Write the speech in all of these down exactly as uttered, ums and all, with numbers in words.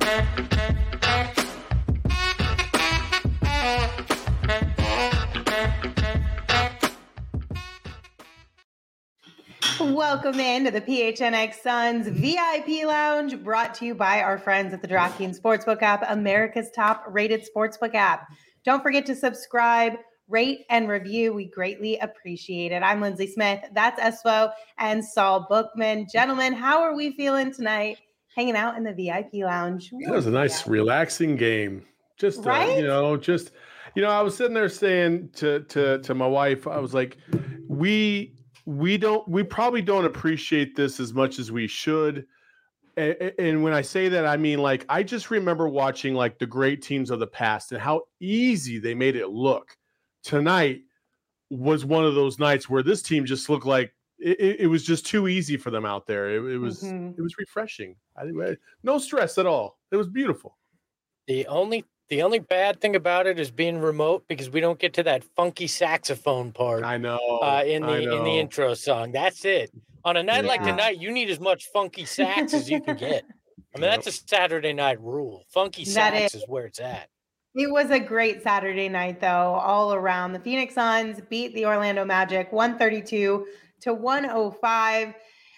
Welcome into the P H N X Suns V I P Lounge, brought to you by our friends at the DraftKings Sportsbook app, America's top-rated sportsbook app. Don't forget to subscribe, rate, and review. We greatly appreciate it. I'm Lindsay Smith. That's Espo and Saul Bookman. Gentlemen, how are we feeling tonight? Hanging out in the V I P Lounge. That was a nice, yeah. relaxing game. Just, right? uh, you know, just, you know, I was sitting there saying to to to my wife, I was like, we. We don't. We probably don't appreciate this as much as we should. And, and when I say that, I mean, like, I just remember watching like the great teams of the past and how easy they made it look. Tonight was one of those nights where this team just looked like it, it was just too easy for them out there. It, it was mm-hmm. it was refreshing. I, no stress at all. It was beautiful. The only The only bad thing about it is being remote because we don't get to that funky saxophone part. I know. Uh, in the I know. in the intro song. That's it. On a night yeah. like tonight, you need as much funky sax as you can get. I mean, that's a Saturday night rule. Funky sax is. is where it's at. It was a great Saturday night, though, all around. The Phoenix Suns beat the Orlando Magic one thirty-two to one oh five.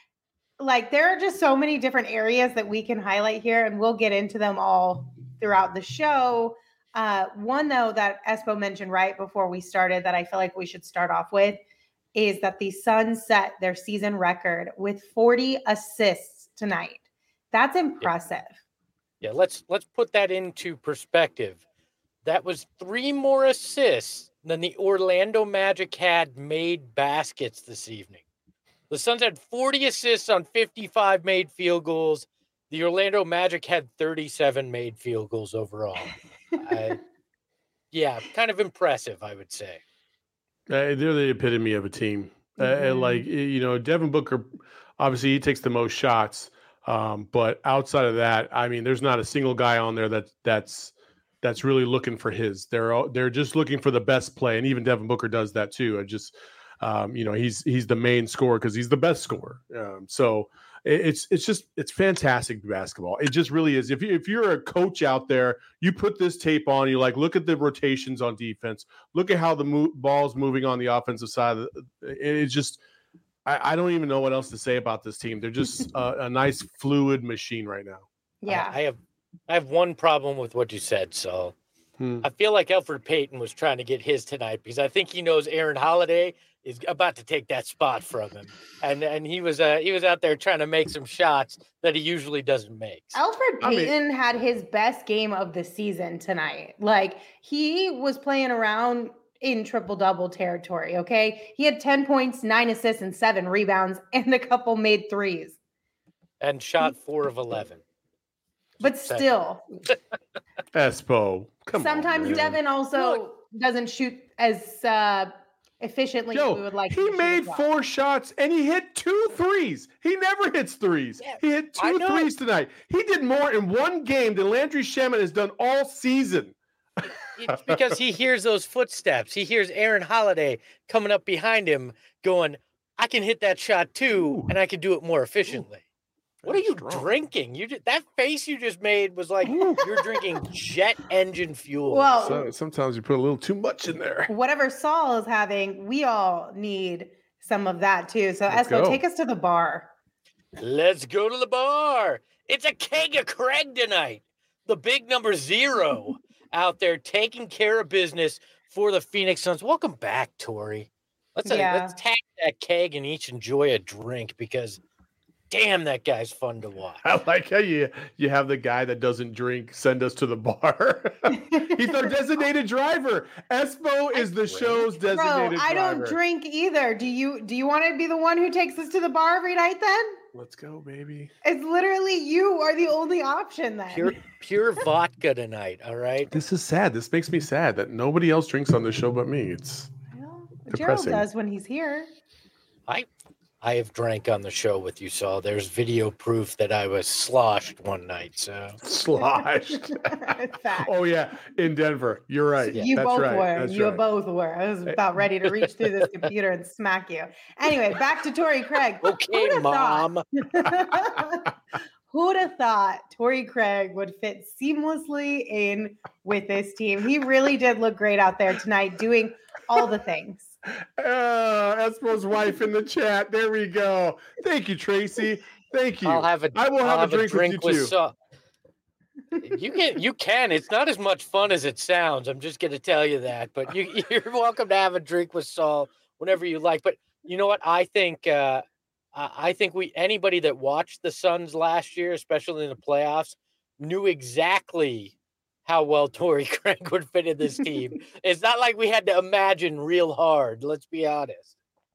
Like, there are just so many different areas that we can highlight here, and we'll get into them all throughout the show. Uh, one, though, that Espo mentioned right before we started that I feel like we should start off with is that the Suns set their season record with forty assists tonight. That's impressive. Yeah, yeah let's let's put that into perspective. That was three more assists than the Orlando Magic had made baskets this evening. The Suns had forty assists on fifty-five made field goals. The Orlando Magic had thirty-seven made field goals overall. I, yeah, kind of impressive, I would say. Uh, they're the epitome of a team. Mm-hmm. Uh, like, you know, Devin Booker, obviously he takes the most shots. Um, but outside of that, I mean, there's not a single guy on there that that's that's really looking for his. They're all, they're just looking for the best play, and even Devin Booker does that too. I just, um, you know, he's he's the main scorer because he's the best scorer. Um, so it, it's it's just it's fantastic basketball. It just really is. If you if you're a coach out there, you put this tape on. You like look at the rotations on defense. Look at how the mo- ball's moving on the offensive side. Of the, it, it's just. I, I don't even know what else to say about this team. They're just a, a nice fluid machine right now. Yeah, I, I have I have one problem with what you said, so hmm. I feel like Elfrid Payton was trying to get his tonight because I think he knows Aaron Holiday is about to take that spot from him, and and he was uh, he was out there trying to make some shots that he usually doesn't make. Elfrid Payton I mean, had his best game of the season tonight. Like he was playing around in triple-double territory, okay? He had ten points, nine assists, and seven rebounds, and a couple made threes. And shot four of eleven. But still. Espo, come Sometimes on, Devin also Look. doesn't shoot as uh, efficiently Yo, as we would like he to made well. four shots, and he hit two threes. He never hits threes. Yeah, he hit two threes tonight. He did more in one game than Landry Shamet has done all season. It's because he hears those footsteps. He hears Aaron Holiday coming up behind him going, I can hit that shot too, and I can do it more efficiently. Ooh, what are you strong. drinking? You just, that face you just made was like you're drinking jet engine fuel. Well, so, sometimes you put a little too much in there. Whatever Saul is having, we all need some of that too. So Let's Espo, go. take us to the bar. Let's go to the bar. It's a keg of Craig tonight. The big number zero. Out there taking care of business for the Phoenix Suns. Welcome back, Tori. Let's yeah. uh, let's tag that keg and each enjoy a drink because, damn, that guy's fun to watch. I like how you you have the guy that doesn't drink send us to the bar. He's our designated driver. Espo is the show's designated Bro, I driver. don't drink either. Do you? Do you want to be the one who takes us to the bar every night then? Let's go, baby. It's literally you are the only option then. Pure, pure vodka tonight, all right? This is sad. This makes me sad that nobody else drinks on the show but me. It's well, depressing. Gerald does when he's here. I I have drank on the show with you, Saul. There's video proof that I was sloshed one night. So sloshed. Oh yeah, in Denver. You're right. You That's both right. were. That's you right. both were. I was about ready to reach through this computer and smack you. Anyway, back to Torrey Craig. Okay, Mom. Who'd have thought Torrey Craig would fit seamlessly in with this team? He really did look great out there tonight, doing all the things. Uh, Espo's wife in the chat. There we go. Thank you, Tracy. Thank you. I'll have a. I will I'll have, have a drink, a drink with you with too. Saul. You can. You can. It's not as much fun as it sounds. I'm just going to tell you that. But you, you're welcome to have a drink with Saul whenever you like. But you know what? I think. Uh, I think we anybody that watched the Suns last year, especially in the playoffs, knew exactly how well Torrey Craig would fit in this team. It's not like we had to imagine real hard. Let's be honest.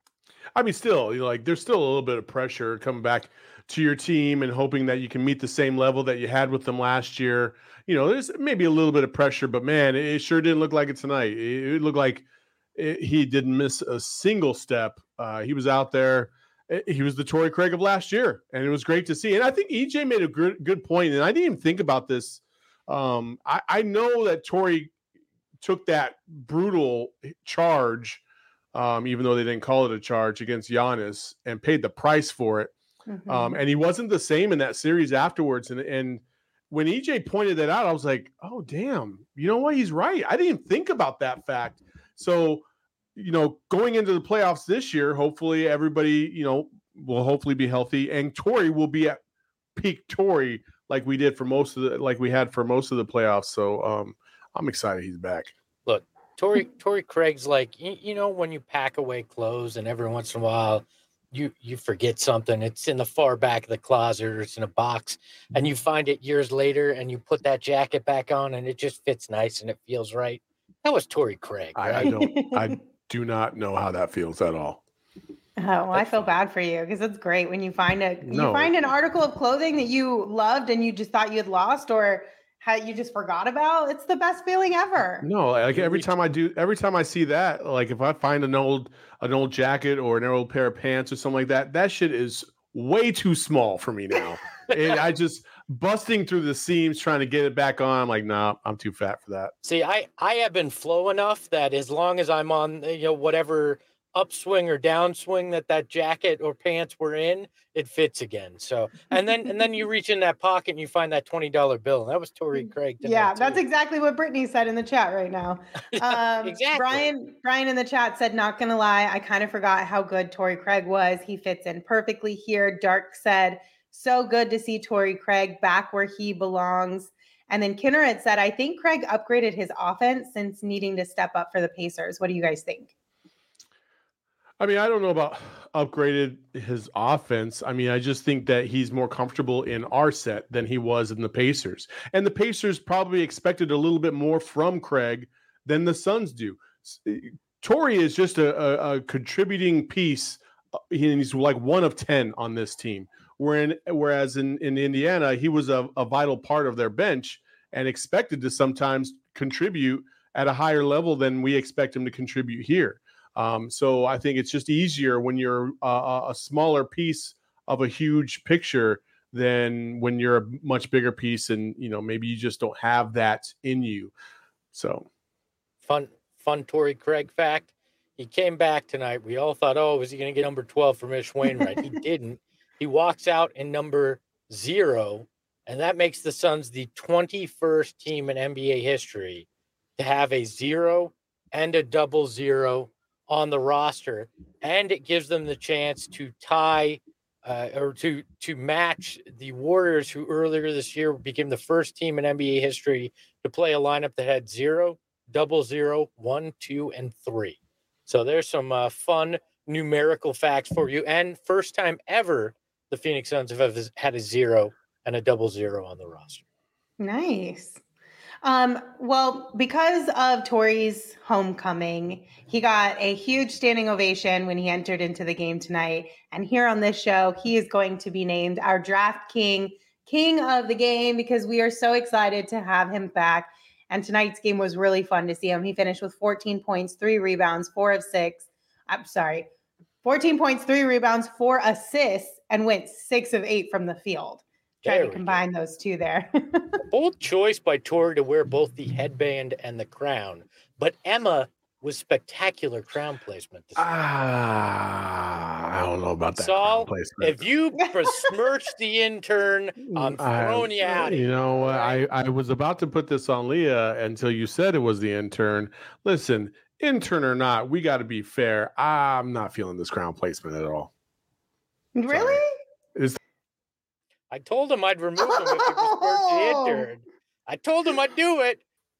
I mean, still, you know, like there's still a little bit of pressure coming back to your team and hoping that you can meet the same level that you had with them last year. You know, there's maybe a little bit of pressure, but man, it sure didn't look like it tonight. It, it looked like it, he didn't miss a single step. Uh, he was out there. He was the Torrey Craig of last year, and it was great to see. And I think E J made a good good point, and I didn't even think about this. Um, I, I know that Torrey took that brutal charge, um, even though they didn't call it a charge against Giannis, and paid the price for it. Mm-hmm. Um, and he wasn't the same in that series afterwards. And and when E J pointed that out, I was like, oh, damn, you know what? He's right. I didn't even think about that fact. So, you know, going into the playoffs this year, hopefully everybody, you know, will hopefully be healthy, and Torrey will be at peak Torrey like we did for most of the, like we had for most of the playoffs. So um, I'm excited he's back. Look, Torrey, Torrey Craig's like, you, you know, when you pack away clothes and every once in a while you, you forget something, it's in the far back of the closet or it's in a box and you find it years later and you put that jacket back on and it just fits nice and it feels right. That was Torrey Craig. Right? I, I don't, I do not know how that feels at all. Oh, well, I feel bad for you because it's great when you find a No. you find an article of clothing that you loved and you just thought you had lost or had you just forgot about. It's the best feeling ever. No, like every time I do, every time I see that, like if I find an old an old jacket or an old pair of pants or something like that, that shit is way too small for me now. And I just busting through the seams trying to get it back on. I'm like, nah, I'm too fat for that. See, I I have been flow enough that as long as I'm on, you know, whatever upswing or downswing that that jacket or pants were in, it fits again. So, and then and then you reach in that pocket and you find that twenty dollar bill. And that was Torrey Craig. Yeah, too. That's exactly what Brittany said in the chat right now. Um, exactly. Brian, Brian in the chat said, not going to lie, I kind of forgot how good Torrey Craig was. He fits in perfectly here. Dark said, so good to see Torrey Craig back where he belongs. And then Kinnered said, I think Craig upgraded his offense since needing to step up for the Pacers. What do you guys think? I mean, I don't know about upgraded his offense. I mean, I just think that he's more comfortable in our set than he was in the Pacers. And the Pacers probably expected a little bit more from Craig than the Suns do. Torrey is just a, a, a contributing piece. He's like one of ten on this team. Whereas in, in Indiana, he was a, a vital part of their bench and expected to sometimes contribute at a higher level than we expect him to contribute here. Um, so I think it's just easier when you're uh, a smaller piece of a huge picture than when you're a much bigger piece and, you know, maybe you just don't have that in you. So fun, fun Torrey Craig fact. He came back tonight. We all thought, oh, was he going to get number twelve from Ish Wainwright? He didn't. He walks out in number zero, and that makes the Suns the twenty-first team in N B A history to have a zero and a double zero on the roster, and it gives them the chance to tie uh, or to to match the Warriors, who earlier this year became the first team in N B A history to play a lineup that had zero, double zero, one, two, and three. So there's some uh, fun numerical facts for you, and first time ever the Phoenix Suns have had a zero and a double zero on the roster. Nice. Um, well, because of Torrey's homecoming, he got a huge standing ovation when he entered into the game tonight. And here on this show, he is going to be named our draft king, king of the game, because we are so excited to have him back. And tonight's game was really fun to see him. He finished with fourteen points, three rebounds, four of six. I'm sorry, fourteen points, three rebounds, four assists, and went six of eight from the field. Try to combine go. those two there. Bold choice by Torrey to wear both the headband and the crown. But Emma was spectacular crown placement. This Ah, I don't know about that. Saul, crown placement. if you besmirch the intern, I'm throwing I, you out. You here, know, right? I I was about to put this on Leah until you said it was the intern. Listen, intern or not, we got to be fair. I'm not feeling this crown placement at all. Really? Is I told him I'd remove him if he besmirched the intern. I told him I'd do it.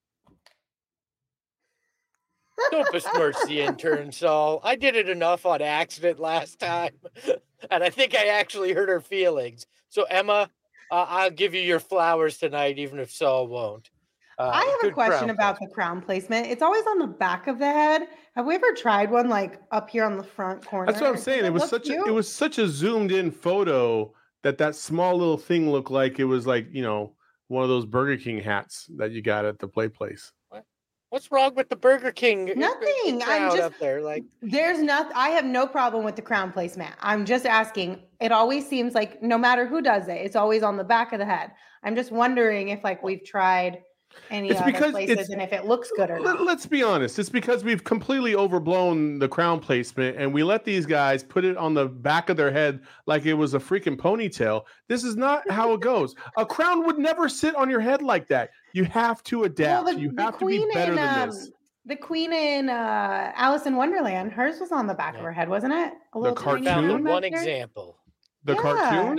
Don't besmirch the intern, Saul. I did it enough on accident last time, and I think I actually hurt her feelings. So, Emma, uh, I'll give you your flowers tonight, even if Saul won't. Uh, I have a good question crown about placement. the crown placement. It's always on the back of the head. Have we ever tried one like up here on the front corner? That's what I'm Does saying. It was look such a, cute? it was such a zoomed in photo that that small little thing looked like it was like, you know, one of those Burger King hats that you got at the play place. What's wrong with the Burger King? Nothing. I'm just up there. Like, there's not. I have no problem with the crown placement. I'm just asking. It always seems like no matter who does it, it's always on the back of the head. I'm just wondering if like we've tried any It's other because places it's- and if it looks good or Let, not. let's be honest. It's because we've completely overblown the crown placement and we let these guys put it on the back of their head like it was a freaking ponytail. This is not how it goes. A crown would never sit on your head like that. You have to adapt. Well, the- you the have to be queen better in, than um, this. The queen in uh, Alice in Wonderland, hers was on the back Yeah. of her head, wasn't it? A The little tiny cartoon? one found back one there? example. The Yeah. cartoon?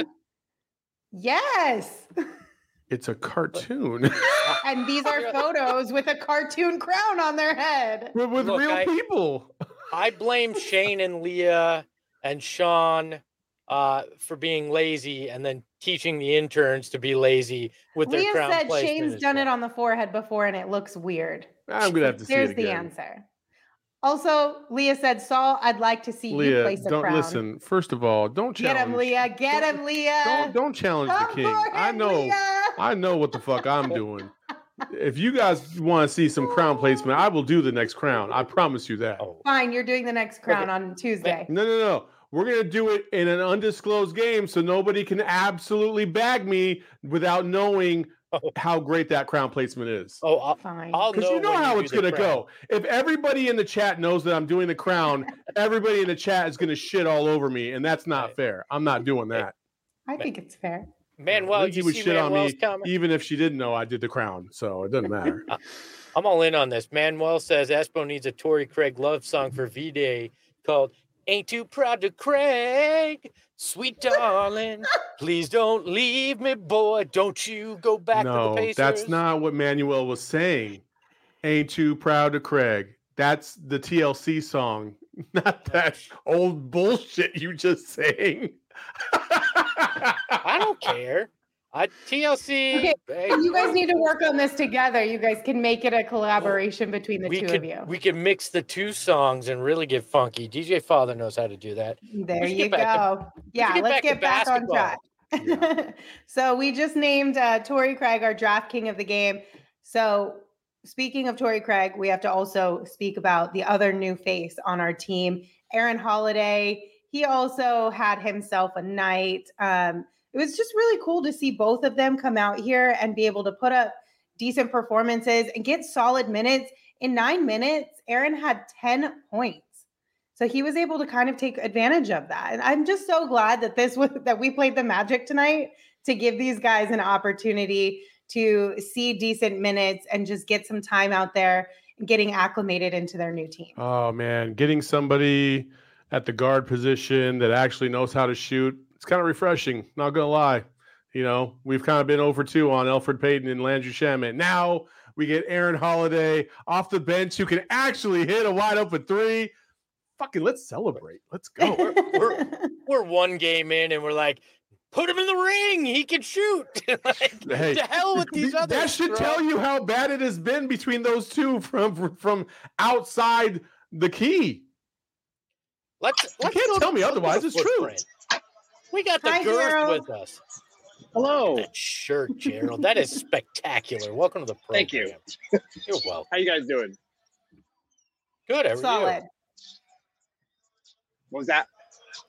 Yes. It's a cartoon And these are photos with a cartoon crown on their head. with, with Look, real I- people. I blame Shane and Leah and Sean uh, for being lazy and then teaching the interns to be lazy with their Leah crown said placement Shane's as done well. it on the forehead before and it looks weird. I'm gonna have to see There's it the again. answer. Also, Leah said, Saul, I'd like to see you Leah, place a don't crown. listen. First of all, don't Get challenge. him, Leah. Get don't- him, Leah. Don't don't challenge Come the king. for I him, know. Leah. I know what the fuck I'm doing. If you guys want to see some crown placement, I will do the next crown. I promise you that. Oh, Fine, you're doing the next crown Okay. on Tuesday. No, no, no. We're gonna do it in an undisclosed game, so nobody can absolutely bag me without knowing Oh. how great that crown placement is. oh, I'll, Fine. I'll Because know you know when how do it's the gonna crown. go. If everybody in the chat knows that I'm doing the crown, everybody in the chat is gonna shit all over me, and that's not Right. fair. I'm not doing that. I think it's fair. Manuel, Lindsay you would see shit on Manuel's me comment? even if she didn't know I did the crown, so it doesn't matter. I'm all in on this. Manuel says Espo needs a Torrey Craig love song for V-Day called Ain't Too Proud to Craig. Sweet darling, please don't leave me, boy. Don't you go back to the No, Pacers. that's not what Manuel was saying. Ain't too proud of Craig. That's the T L C song, not that old bullshit you just sang. I don't care. I T L C. Okay, hey, You guys need to work on this together. You guys can make it a collaboration between the we two could of you. we could mix the two songs and really get funky. D J Father knows how to do that. There we should you get back to- go. Yeah, get let's back to get back on track. basketball. So we just named uh, Torrey Craig our draft king of the game. So speaking of Torrey Craig, we have to also speak about the other new face on our team, Aaron Holiday. He also had himself a night. Um, it was just really cool to see both of them come out here and be able to put up decent performances and get solid minutes. In nine minutes, Aaron had ten points. So he was able to kind of take advantage of that. And I'm just so glad that this was that we played the Magic tonight to give these guys an opportunity to see decent minutes and just get some time out there and getting acclimated into their new team. Oh man, getting somebody at the guard position that actually knows how to shoot, it's kind of refreshing, not gonna lie. You know, we've kind of been over two on Elfrid Payton and Landry Shamet. Now we get Aaron Holiday off the bench who can actually hit a wide open three. Fucking let's celebrate. Let's go. We're, we're, we're one game in and we're like, put him in the ring. He can shoot. Like, Hey, to hell with these that others. should bro. tell you how bad it has been between those two from from outside the key. Let's, let's can't go to- tell me let's go to otherwise. It's true. footprint. We got the Hi, girth Gerald. with us. Hello. That shirt, Gerald. That is spectacular. Welcome to the program. Thank you. You're welcome. How you guys doing? Good. How are Solid. What was that?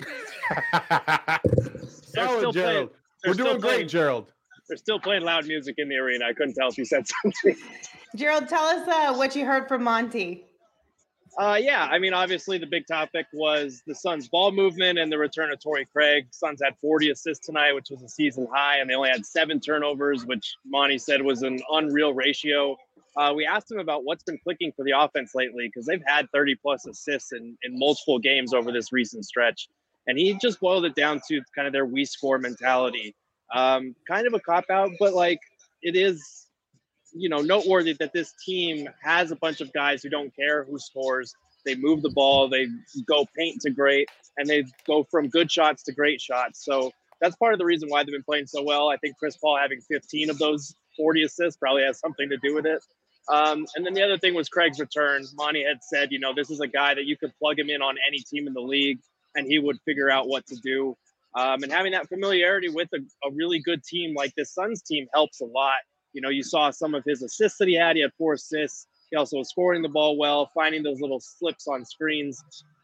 Solid, still Gerald. playing- We're they're still doing great, playing- Gerald. They're still playing loud music in the arena. I couldn't tell if you said something. Gerald, tell us uh, what you heard from Monty. Uh, yeah, I mean, obviously the big topic was the Suns' ball movement and the return of Torrey Craig. Suns had forty assists tonight, which was a season high, and they only had seven turnovers, which Monty said was an unreal ratio. Uh, we asked him about what's been clicking for the offense lately because they've had thirty plus assists in, in multiple games over this recent stretch. And he just boiled it down to kind of their we score mentality. Um, kind of a cop-out, but like it is, you know, noteworthy that this team has a bunch of guys who don't care who scores. They move the ball, they go paint to great, and they go from good shots to great shots. So that's part of the reason why they've been playing so well. I think Chris Paul having fifteen of those forty assists probably has something to do with it. Um, and then the other thing was Craig's return. Monty had said, you know, this is a guy that you could plug him in on any team in the league, and he would figure out what to do. Um, and having that familiarity with a, a really good team like this Suns team helps a lot. You know, you saw some of his assists that he had. He had four assists. He also was scoring the ball well, finding those little slips on screens.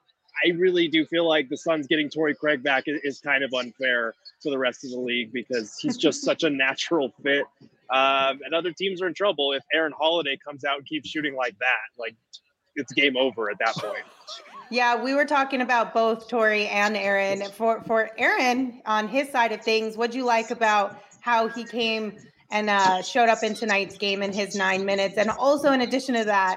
I really do feel like the Suns getting Torrey Craig back is, is kind of unfair to the rest of the league because he's just such a natural fit. Um, and other teams are in trouble if Aaron Holiday comes out and keeps shooting like that. Like, it's game over at that point. Yeah, we were talking about both Torrey and Aaron. For for Aaron, on his side of things, what'd you like about how he came and uh, showed up in tonight's game in his nine minutes? And also, in addition to that,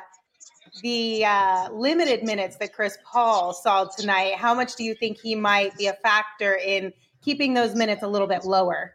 the uh, limited minutes that Chris Paul saw tonight, how much do you think he might be a factor in keeping those minutes a little bit lower?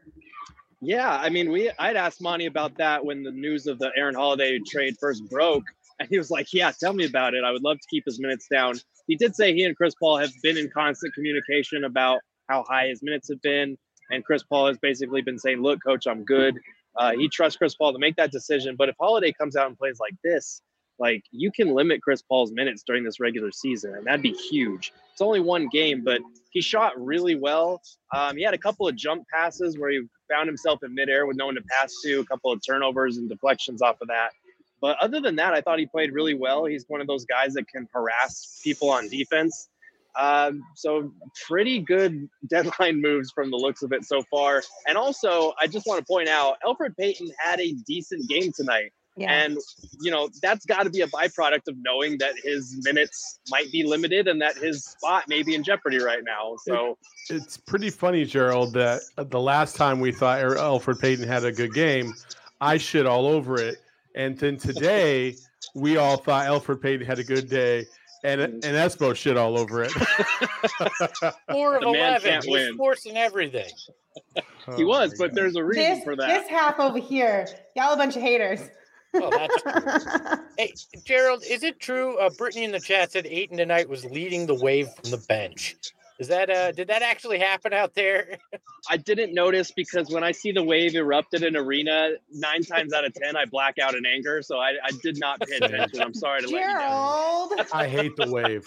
Yeah, I mean, we I'd asked Monty about that when the news of the Aaron Holiday trade first broke. And he was like, yeah, tell me about it. I would love to keep his minutes down. He did say he and Chris Paul have been in constant communication about how high his minutes have been. And Chris Paul has basically been saying, look, coach, I'm good. Uh, he trusts Chris Paul to make that decision. But if Holiday comes out and plays like this, like you can limit Chris Paul's minutes during this regular season. And that'd be huge. It's only one game, but he shot really well. Um, he had a couple of jump passes where he found himself in midair with no one to pass to, a couple of turnovers and deflections off of that. But other than that, I thought he played really well. He's one of those guys that can harass people on defense. Um, so pretty good deadline moves from the looks of it so far. And also, I just want to point out, Elfrid Payton had a decent game tonight. Yeah. And, you know, that's got to be a byproduct of knowing that his minutes might be limited and that his spot may be in jeopardy right now. So it, it's pretty funny, Gerald, that the last time we thought Elfrid Payton had a good game, I shit all over it. And then today, we all thought Elfrid Payton had a good day, and and Espo shit all over it. Four of eleven. He was forcing everything. Oh, he was, but there's a reason this, for that. This half over here, y'all a bunch of haters. Oh, that's true. Hey, Gerald, is it true? Uh, Brittany in the chat said Ayton tonight was leading the wave from the bench. Is that uh? Did that actually happen out there? I didn't notice because when I see the wave erupt at an arena, nine times out of ten, I black out in anger. So I, I did not pay attention. I'm sorry to Gerald. let you know. I hate the wave.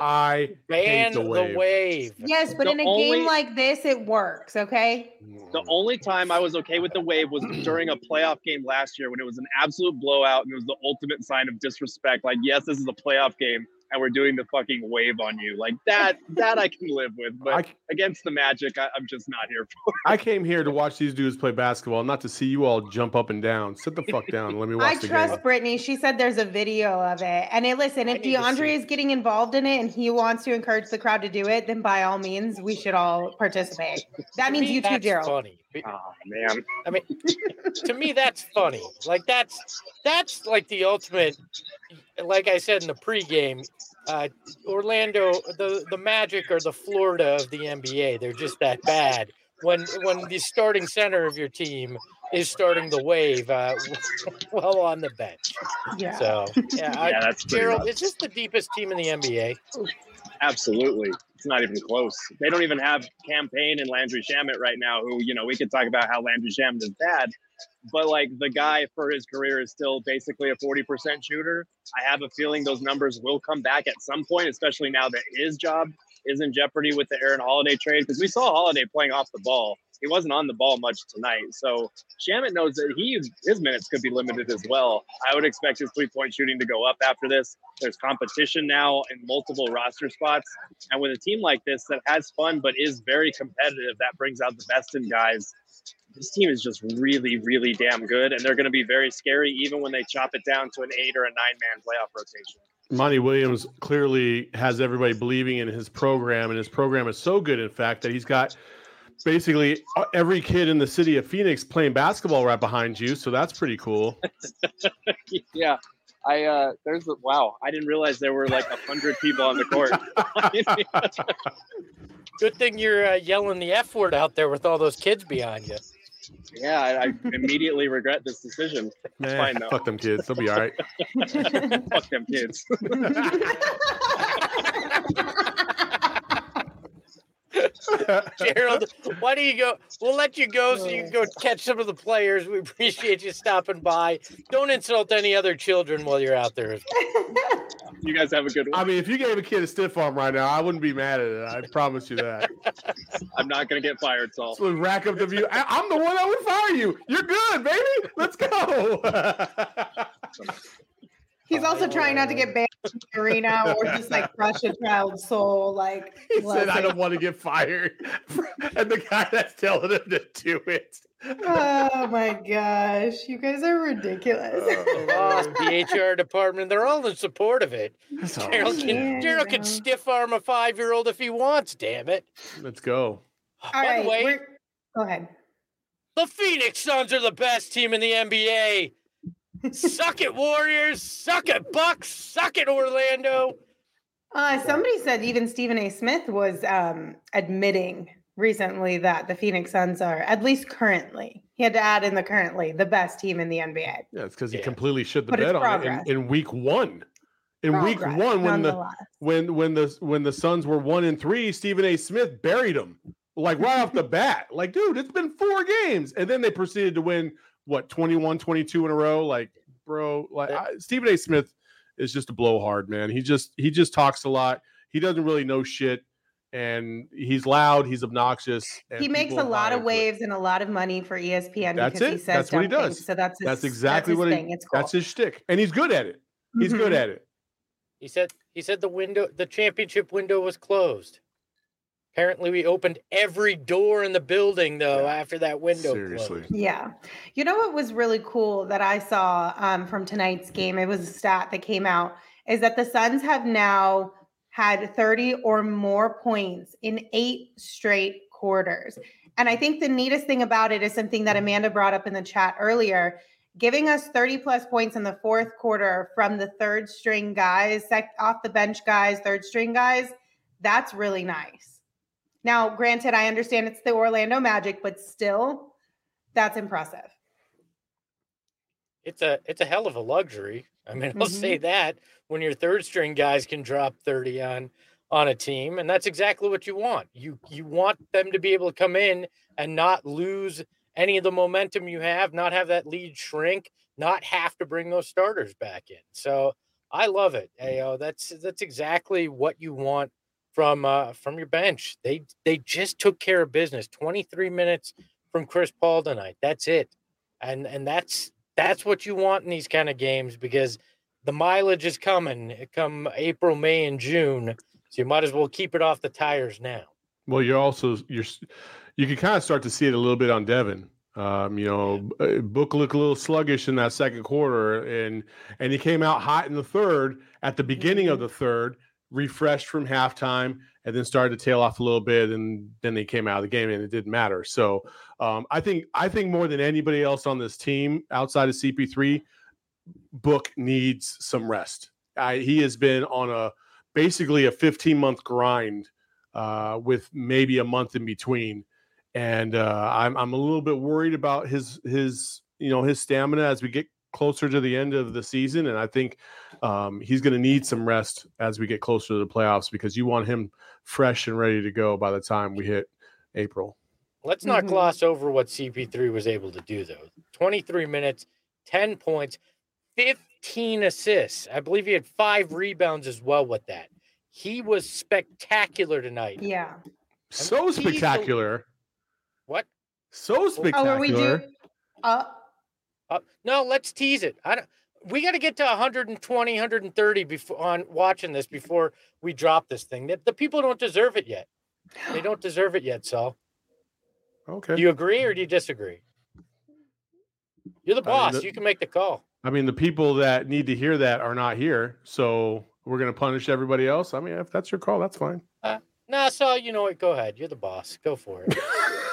I ban hate the wave. the wave. Yes, but The in a only- game like this, it works. Okay. The only time I was okay with the wave was during a playoff game last year when it was an absolute blowout and it was the ultimate sign of disrespect. Like, yes, this is a playoff game and we're doing the fucking wave on you. Like that, that I can live with. But I, against the Magic, I, I'm just not here for it. I came here to watch these dudes play basketball, not to see you all jump up and down. Sit the fuck down and let me watch I the trust game. Brittany. She said there's a video of it. And it, listen, if DeAndre is getting involved in it and he wants to encourage the crowd to do it, then by all means, we should all participate. That To means me, you too, that's Gerald. Funny. Oh, man. I mean, to me, that's funny. Like that's that's like the ultimate. Like I said in the pregame, uh, Orlando, the the Magic are the Florida of the N B A. They're just that bad. When when the starting center of your team is starting the wave uh, while on the bench. Yeah. So yeah, I, Yeah, that's pretty Gerald, rough. is this the deepest team in the N B A? Absolutely. It's not even close. They don't even have Campaign and Landry Shamet right now, who, you know, we could talk about how Landry Shamet is bad, but like the guy for his career is still basically a forty percent shooter. I have a feeling those numbers will come back at some point, especially now that his job is in jeopardy with the Aaron Holiday trade, because we saw Holiday playing off the ball. He wasn't on the ball much tonight. So Shamet knows that he his minutes could be limited as well. I would expect his three-point shooting to go up after this. There's competition now in multiple roster spots. And with a team like this that has fun but is very competitive, that brings out the best in guys. this team is just really, really damn good, and they're going to be very scary even when they chop it down to an eight or a nine-man playoff rotation. Monty Williams clearly has everybody believing in his program, and his program is so good, in fact, that he's got basically every kid in the city of Phoenix playing basketball right behind you, so that's pretty cool. Yeah. I uh there's the wow, I didn't realize there were like a hundred people on the court. Good thing you're uh, yelling the F word out there with all those kids behind you. Yeah, I, I immediately regret this decision. It's Man, fine though. Fuck them kids. They'll be all right. Fuck them kids. Gerald, why do you go? We'll let you go so you can go catch some of the players. We appreciate you stopping by. Don't insult any other children while you're out there. You guys have a good one. I mean, if you gave a kid a stiff arm right now, I wouldn't be mad at it. I promise you that. I'm not going to get fired, Saul. So rack up the view. I, I'm the one that would fire you. You're good, baby. Let's go. He's also trying not to get banned from the arena or just like crush a child's soul. Like He said, I listen. don't want to get fired. And the guy that's telling him to do it. Oh my gosh, you guys are ridiculous. Oh, Boss, the H R department, they're all in support of it. So, Gerald can, Yeah, Gerald can well. stiff arm a five year old if he wants, damn it. let's go. All By right, the way, we're- go ahead. the Phoenix Suns are the best team in the N B A. Suck it, Warriors. Suck it, Bucks. Suck it, Orlando. Uh, somebody said even Stephen A. Smith was um, admitting recently that the Phoenix Suns are, at least currently, he had to add in the currently, the best team in the N B A. Yeah, it's because he Yeah. completely shit the But it's bed on it progress. in, in week one. In week Progress, one, when the nonetheless. when when the when the Suns were one and three, Stephen A. Smith buried them like right off the bat. Like, dude, it's been four games, and then they proceeded to win what twenty-one, twenty-two in a row. Like, bro, like I, Stephen A. Smith is just a blowhard, man. He just he just talks a lot. He doesn't really know shit, and he's loud. He's obnoxious. And He makes a people lot buy of into it. waves and a lot of money for E S P N That's because he it. says That's what he dumb does. things. So that's his, That's exactly that's what his he. thing. It's cool. That's his shtick, and he's good at it. He's good Mhm. at it. He said he said the window the championship window was closed. Apparently we opened every door in the building though after that window Seriously. closed. Yeah. You know what was really cool that I saw um, from tonight's game? It was a stat that came out is that the Suns have now had thirty or more points in eight straight quarters. And I think the neatest thing about it is something that Amanda brought up in the chat earlier, giving us thirty plus points in the fourth quarter from the third string guys, sec- off the bench guys, third string guys. That's really nice. Now, granted, I understand it's the Orlando Magic, but still, that's impressive. It's a it's a hell of a luxury. I mean, I'll say that when your third string guys can drop thirty on on a team, and that's exactly what you want. You you want them to be able to come in and not lose any of the momentum you have, not have that lead shrink, not have to bring those starters back in. So I love it. You know, that's that's exactly what you want from uh, from your bench. They they just took care of business. twenty-three minutes from Chris Paul tonight. That's it, and and that's that's what you want in these kind of games because the mileage is coming. Come April, May, and June, so you might as well keep it off the tires now. Well, you're also you're you can kind of start to see it a little bit on Devin. Um, you know, Book looked a little sluggish in that second quarter, and and he came out hot in the third at the beginning of the third, refreshed from halftime, and then started to tail off a little bit, and then they came out of the game, and it didn't matter. So um, I think I think more than anybody else on this team outside of C P three, Book needs some rest. I, he has been on a basically a fifteen month grind uh, with maybe a month in between. And uh, I'm I'm a little bit worried about his his you know his stamina as we get closer to the end of the season, and I think um, he's going to need some rest as we get closer to the playoffs because you want him fresh and ready to go by the time we hit April. Let's not Mhm. gloss over what C P three was able to do, though. twenty-three minutes, ten points, fifteen assists. I believe he had five rebounds as well with that. He was spectacular tonight. Yeah. So he's the- spectacular, What? so Oh, spectacular. are we do? Uh, Uh, no, let's tease it. I don't. We got to get to one twenty, one thirty before on watching this before we drop this thing. The, the people don't deserve it yet. They don't deserve it yet, Saul. Okay. Do you agree or do you disagree? You're the I mean, boss. the- You can make the call. I mean, the people that need to hear that are not here, so we're going to punish everybody else. I mean, if that's your call, that's fine. Uh, nah, so you know what? Go ahead. You're the boss. Go for it.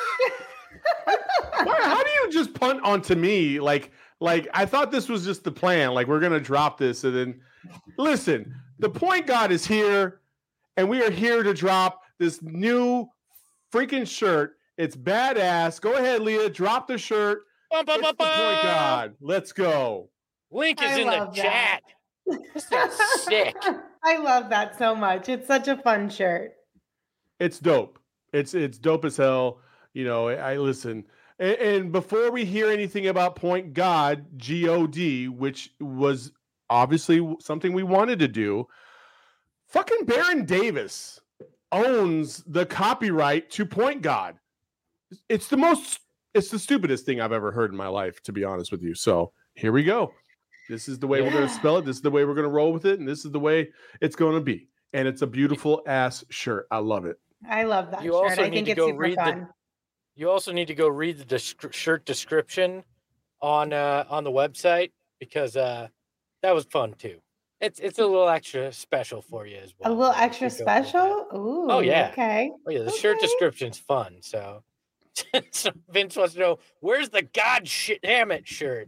Why, how do you just punt onto me? Like, like I thought this was just the plan. Like, we're going to drop this, and then listen. The point guard is here, and we are here to drop this new freaking shirt. It's badass. Go ahead, Leah. Drop the shirt. Bum, bum, It's the bum, point bum. guard. Let's go. Link is I in the love that. chat. This thing's sick. I love that so much. It's such a fun shirt. It's dope. It's it's dope as hell. You know, I, I listen. And, and before we hear anything about Point God, G O D, which was obviously something we wanted to do, fucking Baron Davis owns the copyright to Point God. It's the most, it's the stupidest thing I've ever heard in my life, to be honest with you. So here we go. This is the way we're going to spell it. This is the way we're going to roll with it. And this is the way it's going to be. And it's a beautiful ass shirt. I love it. I love that You shirt. also I need think to it's go super read the- fun. You also need to go read the descri- shirt description on uh, on the website because uh, that was fun too. It's it's a little extra special for you as well. A little if you extra go read that. special? Ooh. Oh, yeah. Okay. Oh yeah, the shirt Okay. description's fun. So, so Vince wants to know where's the God shit damn it shirt.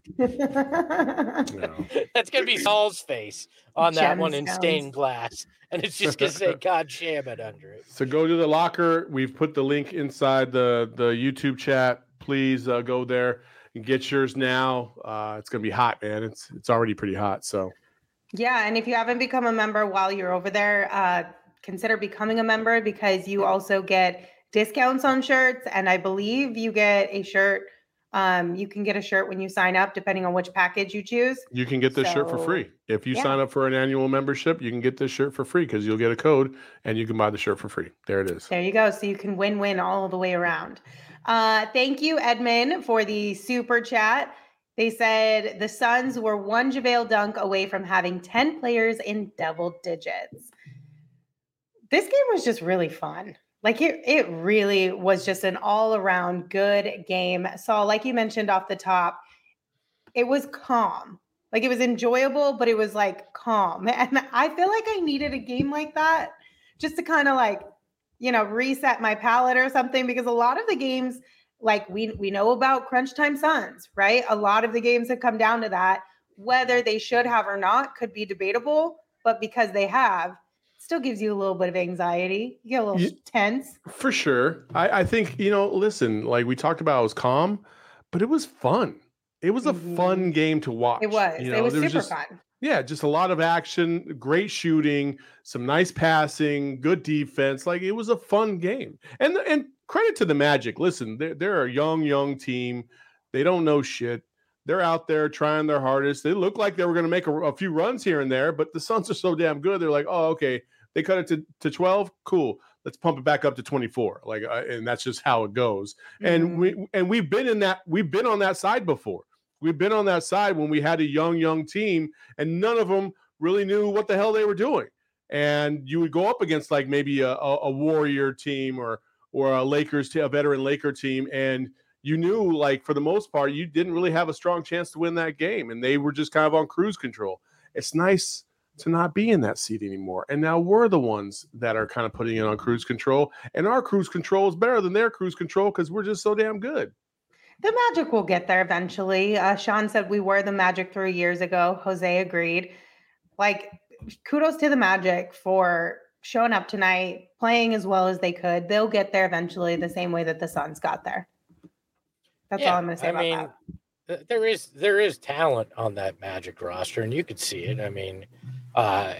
No. That's gonna be Saul's face on that one in Gemstones. stained glass, and it's just gonna say God damn it under it. So go to the locker. We've put the link inside the, the YouTube chat. Please uh, go there and get yours now. Uh, it's gonna be hot, man. It's it's already pretty hot. So Yeah, and if you haven't become a member while you're over there, uh, consider becoming a member because you also get discounts on shirts, and I believe you get a shirt. Um, you can get a shirt when you sign up, depending on which package you choose. you can get this shirt for So, free. If you yeah. sign up for an annual membership, you can get this shirt for free because you'll get a code and you can buy the shirt for free. There it is. There you go. So you can win-win all the way around. Uh, thank you, Edmund, for the super chat. They said the Suns were one JaVale dunk away from having ten players in double digits. This game was just really fun. Like it, it really was just an all-around good game. So, like you mentioned off the top, it was calm. Like it was enjoyable, but it was like calm. And I feel like I needed a game like that just to kind of like, you know, reset my palate or something. Because a lot of the games, like we we know about Crunch Time Suns, right? A lot of the games have come down to that. Whether they should have or not could be debatable, but because they have, still gives you a little bit of anxiety. You get a little Yeah. tense. For sure. I, I think, you know, listen, like we talked about, it was calm, but it was fun. It was a Mhm. fun game to watch. It was. You it know, was there super just, fun. Yeah, just a lot of action, great shooting, some nice passing, good defense. Like it was a fun game. And and credit to the Magic. Listen, they're, they're a young, young team. They don't know shit. They're out there trying their hardest. They look like they were going to make a, a few runs here and there, but the Suns are so damn good. They're like, oh, okay, they cut it to, to twelve. Cool. Let's pump it back up to twenty-four. Like, uh, and that's just how it goes. And Mhm. we and we've been in that. We've been on that side before. We've been on that side when we had a young, young team, and none of them really knew what the hell they were doing. And you would go up against like maybe a, a, a Warrior team or or a Lakers, te- a veteran Laker team, and you knew like for the most part you didn't really have a strong chance to win that game, and they were just kind of on cruise control. It's nice to not be in that seat anymore, and now we're the ones that are kind of putting it on cruise control, and our cruise control is better than their cruise control because we're just so damn good. The Magic will get there eventually. Uh, Sean said we were the Magic three years ago. Jose agreed. Like, kudos to the Magic for showing up tonight, playing as well as they could. They'll get there eventually, the same way that the Suns got there. That's all I'm going to say I about mean, that. th- there is there is talent on that Magic roster, and you could see it. I mean, uh,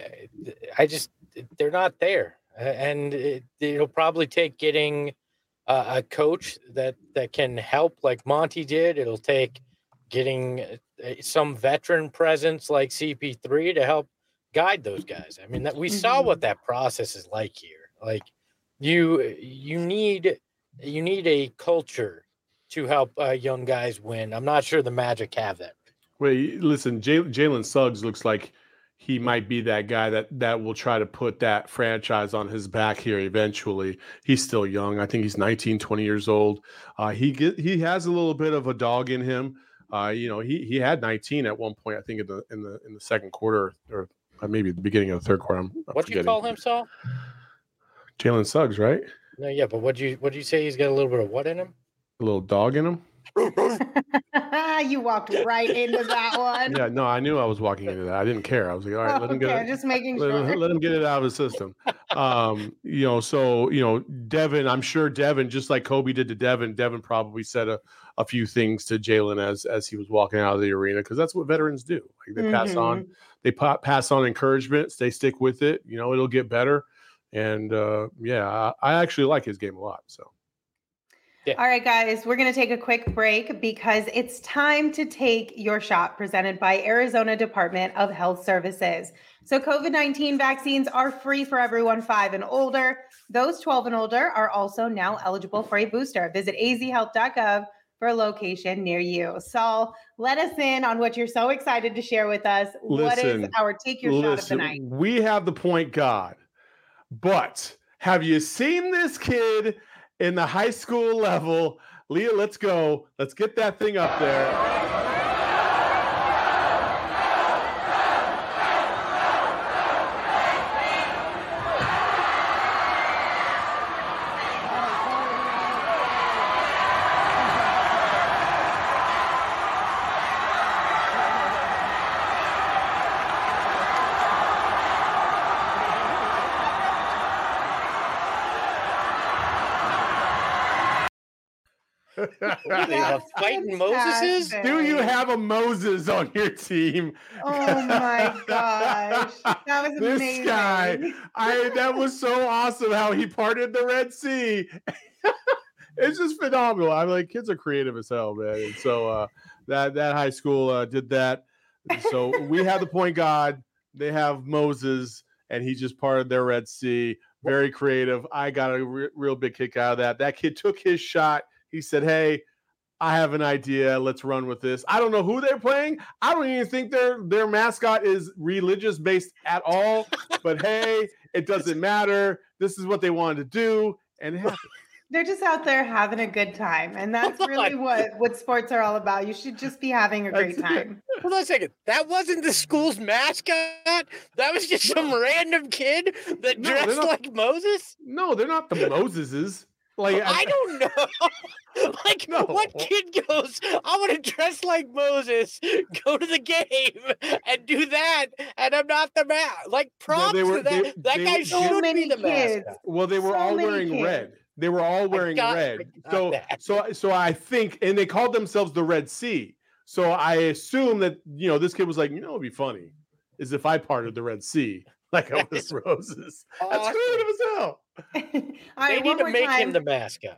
I just they're not there, A- and it, it'll probably take getting uh, a coach that that can help, like Monty did. It'll take getting uh, some veteran presence like C P three to help guide those guys. I mean, that we saw Mhm. what that process is like here. Like you you need you need a culture to help uh, young guys win. I'm not sure the Magic have that. Wait, listen, Jay- Jalen Suggs looks like he might be that guy that that will try to put that franchise on his back here eventually. He's still young. I think he's nineteen, twenty years old. Uh, he get, he has a little bit of a dog in him. Uh, you know, he he had nineteen at one point, I think in the in the in the second quarter, or maybe the beginning of the third quarter. I'm, I'm What'd you forgetting. call him, Saul? Jalen Suggs, right? No, yeah, but what'd you what'd you say? He's got a little bit of what in him? A little dog in him. You walked right into that one. Yeah, no, I knew I was walking into that. I didn't care. I was like, all right, Oh, let him okay, get it. just making let, sure. him, let him get it out of his system. Um, you know, so you know, Devin, I'm sure Devin, just like Kobe did to Devin, Devin probably said a, a few things to Jalen as as he was walking out of the arena, because that's what veterans do. Like they pass Mm-hmm. on, they pa- pass on encouragement. They stick with it. You know, it'll get better. And uh, yeah, I, I actually like his game a lot. So. Yeah. All right, guys, we're going to take a quick break because it's time to take your shot presented by Arizona Department of Health Services. So COVID nineteen vaccines are free for everyone five and older. Those twelve and older are also now eligible for a booster. Visit a z health dot gov for a location near you. Saul, let us in on what you're so excited to share with us. What is Listen, our take your shot of the listen, night? we have the point guard, but have you seen this kid in the high school level? Leah, let's go. Let's get that thing up there. What, they have fighting Moseses? Do you have a Moses on your team? Oh my gosh. That was this amazing. guy, I that was so awesome how he parted the Red Sea. It's just phenomenal. I'm like, kids are creative as hell, man. And so uh, that that high school uh, did that. So we have the point guard. They have Moses, and he just parted their Red Sea. Very creative. I got a re- real big kick out of that. That kid took his shot. He said, hey, I have an idea. Let's run with this. I don't know who they're playing. I don't even think their their mascot is religious based at all. But hey, it doesn't matter. This is what they wanted to do, and it happened. They're just out there having a good time. And that's really what, what sports are all about. You should just be having a great That's it. time. Hold on a second. That wasn't the school's mascot? That was just some random kid that No, they're dressed not- like Moses? No, they're not the Moseses. Like I don't know. Like, No. what kid goes, I want to dress like Moses, go to the game, and do that, and I'm not the man. Like, props they were- to that. they- that they- guy they- should So be many the kids. mascot. Well, they were So all many wearing kids. red. They were all wearing got- I red. got So, that. so, so I think, and they called themselves the Red Sea. So I assume that you know this kid was like, you know, it'd be funny, is if I parted the Red Sea like I was Roses. That's Awesome. creative as hell. All They right, need one to more make time. him the mascot.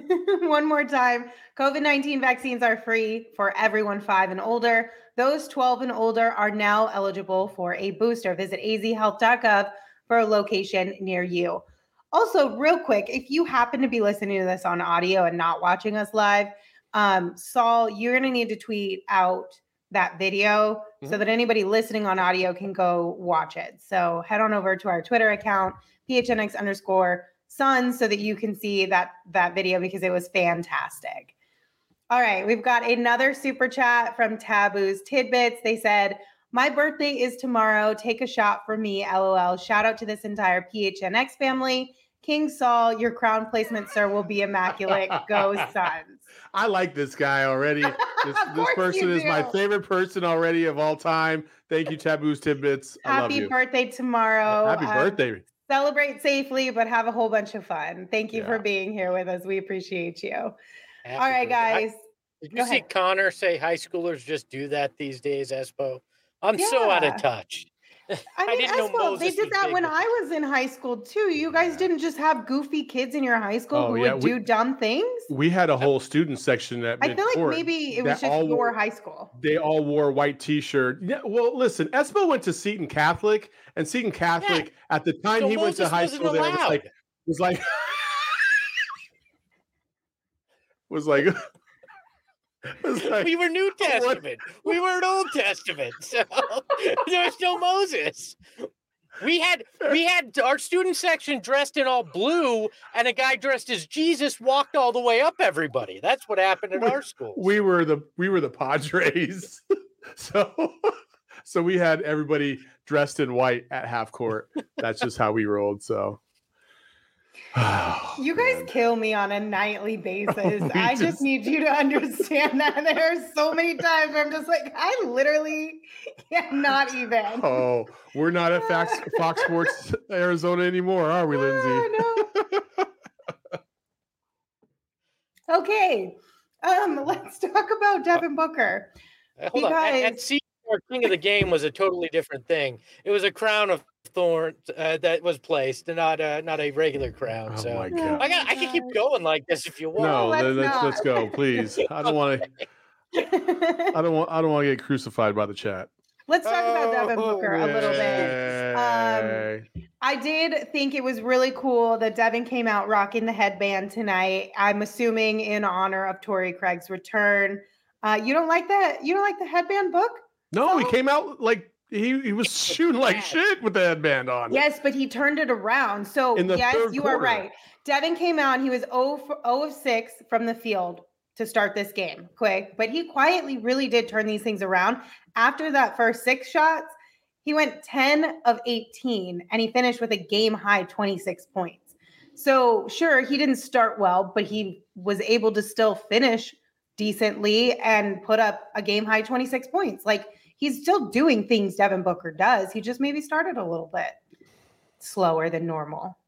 One more time. COVID nineteen vaccines are free for everyone five and older. Those twelve and older are now eligible for a booster. Visit a z health dot gov for a location near you. Also, real quick, if you happen to be listening to this on audio and not watching us live, um, Saul, you're going to need to tweet out that video so Mhm. that anybody listening on audio can go watch it. So head on over to our Twitter account, P H N X underscore Suns, so that you can see that that video because it was fantastic. All right, we've got another super chat from Taboo's Tidbits. They said, my birthday is tomorrow. Take a shot for me, LOL. Shout out to this entire P H N X family. King Saul, your crown placement, sir, will be immaculate. Go Suns. I like this guy already. This, Of this course person you is my do. favorite person already of all time. Thank you, Taboo's Tidbits. I love Happy you. birthday tomorrow. Happy Um, birthday. Celebrate safely, but have a whole bunch of fun. Thank you Yeah. for being here with us. We appreciate you. Happy All right, birthday. I- guys. Did Go you see ahead. Connor say high schoolers just do that these days, Espo? I'm so out Yeah. of touch. I mean, didn't know Espo, they Moses did was that big when with I was in high school too. You guys didn't just have goofy kids in your high school Oh, who yeah, would we- do dumb things. We had a whole student section at I feel like Midcourt maybe it was that just all your wore- high school. They all wore white t-shirt. Yeah, well, listen, Espo went to Seton Catholic, and Seton Catholic at the time So he went to Moses high wasn't school there was allowed. like was like was like was like We were New Testament. We were an Old Testament. So there was no Moses. We had we had our student section dressed in all blue, and a guy dressed as Jesus walked all the way up everybody. That's what happened at we, our school. We were the we were the Padres, so so we had everybody dressed in white at half court. That's just how we rolled. So. Oh, you guys man. kill me on a nightly basis. We I just, just need you to understand that there are so many times where I'm just like, I literally cannot even. Oh, we're not at Fox, Fox Sports Arizona anymore, are we, Lindsay? Oh, no. Okay, um, let's talk about Devin Booker. Hold on. And, and see, our king of the game was a totally different thing. It was a crown of thorns uh, that was placed, not a not a regular crown. Oh so my God. I got I can keep going like this if you want. No, let's let's not. let's go, please. I don't want to. I don't want. I don't want to get crucified by the chat. Let's talk about Devin Booker a little bit. Yay. Um, I did think it was really cool that Devin came out rocking the headband tonight. I'm assuming in honor of Torrey Craig's return. Uh, you don't like that? You don't like the headband, Book? No, So? he came out like he, he was shooting like shit with the headband on. Yes, but he turned it around. So In the yes, third you quarter. are right. Devin came out. He was zero of six from the field to start this game. Quick, but he quietly really did turn these things around. After that first six shots, he went ten of eighteen, and he finished with a game high twenty-six points. So sure, he didn't start well, but he was able to still finish decently and put up a game high twenty-six points. Like, he's still doing things Devin Booker does. He just maybe started a little bit slower than normal.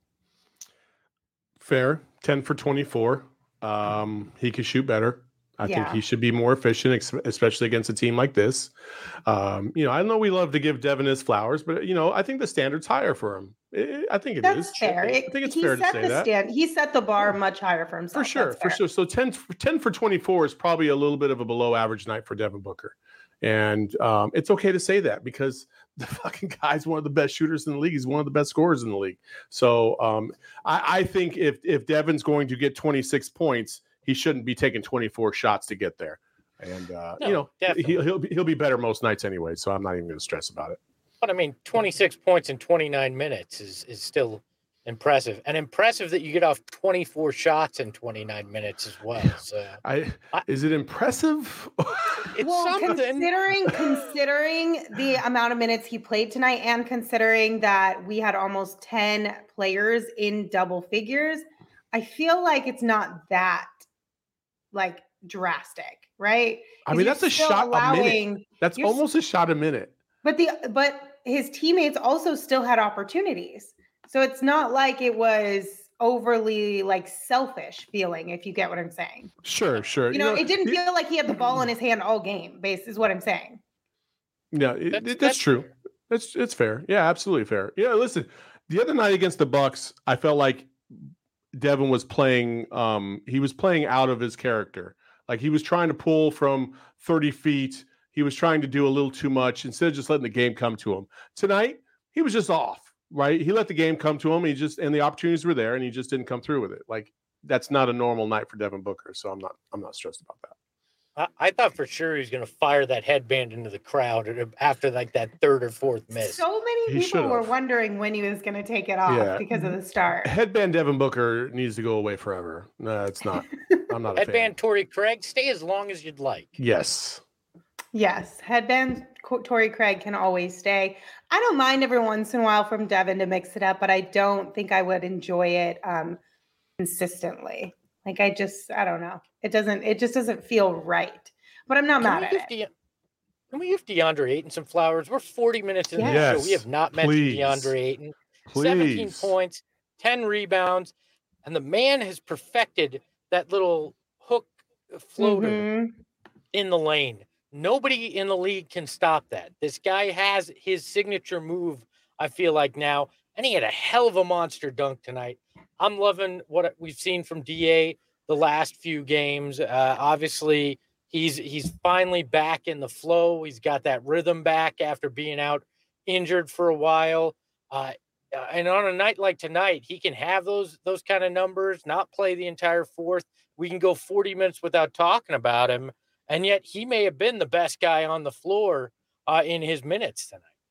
Fair. ten for twenty-four. Um, he could shoot better. I Yeah. think he should be more efficient, ex- especially against a team like this. Um, you know, I know we love to give Devin his flowers, but you know, I think the standard's higher for him. I I think it is. That's fair. I It- think it's he fair to set say the that. stand. He set the bar much higher for himself. For sure, That's for fair. sure. So ten, ten for twenty-four is probably a little bit of a below average night for Devin Booker. And um, it's okay to say that because the fucking guy's one of the best shooters in the league. He's one of the best scorers in the league. So um, I, I think if if Devin's going to get twenty-six points, he shouldn't be taking twenty-four shots to get there. And uh, No, you know, definitely. he, he'll be, he'll be better most nights anyway. So I'm not even going to stress about it. But I mean, twenty-six points in twenty-nine minutes is is still impressive, and impressive that you get off twenty-four shots in twenty-nine minutes as well. So I, I- is it impressive? it's Well, something. considering considering the amount of minutes he played tonight, and considering that we had almost ten players in double figures, I feel like it's not that like drastic, right? I 'Cause mean, you're that's a still shot a minute. allowing- That's you're s- almost a shot a minute. But the but his teammates also still had opportunities. So it's not like it was overly like selfish feeling, if you get what I'm saying. Sure, sure. You know, it didn't he- feel like he had the ball in his hand all game, base is what I'm saying. Yeah, it, it- that's, true. fair. That's it's fair. Yeah, absolutely fair. Yeah, listen, the other night against the Bucks, I felt like Devin was playing. Um, he was playing out of his character. Like he was trying to pull from thirty feet. He was trying to do a little too much instead of just letting the game come to him. Tonight, he was just off. Right? He let the game come to him. He just and the opportunities were there, and he just didn't come through with it. Like that's not a normal night for Devin Booker. So I'm not. I'm not stressed about that. I, I thought for sure he was going to fire that headband into the crowd after like that third or fourth miss. So many He people were should've. wondering when he was going to take it off Yeah. because of the start. Headband Devin Booker needs to go away forever. No, it's not. I'm not a fan. Headband Torrey Craig, stay as long as you'd like. Yes. Yes, headband Co- Torrey Craig can always stay. I don't mind every once in a while from Devin to mix it up, but I don't think I would enjoy it um, consistently. Like I just, I don't know. It doesn't. It just doesn't feel right. But I'm not Can mad we at give it. De- Can we give DeAndre Ayton some flowers? We're forty minutes into Yes. the show. We have not mentioned Please. DeAndre Ayton. Please. seventeen points, ten rebounds, and the man has perfected that little hook floater Mhm. in the lane. Nobody in the league can stop that. This guy has his signature move, I feel like now, and he had a hell of a monster dunk tonight. I'm loving what we've seen from D A the last few games. Uh, obviously, he's he's finally back in the flow. He's got that rhythm back after being out injured for a while. Uh, and on a night like tonight, he can have those those kind of numbers, not play the entire fourth. We can go forty minutes without talking about him. And yet he may have been the best guy on the floor uh, in his minutes tonight.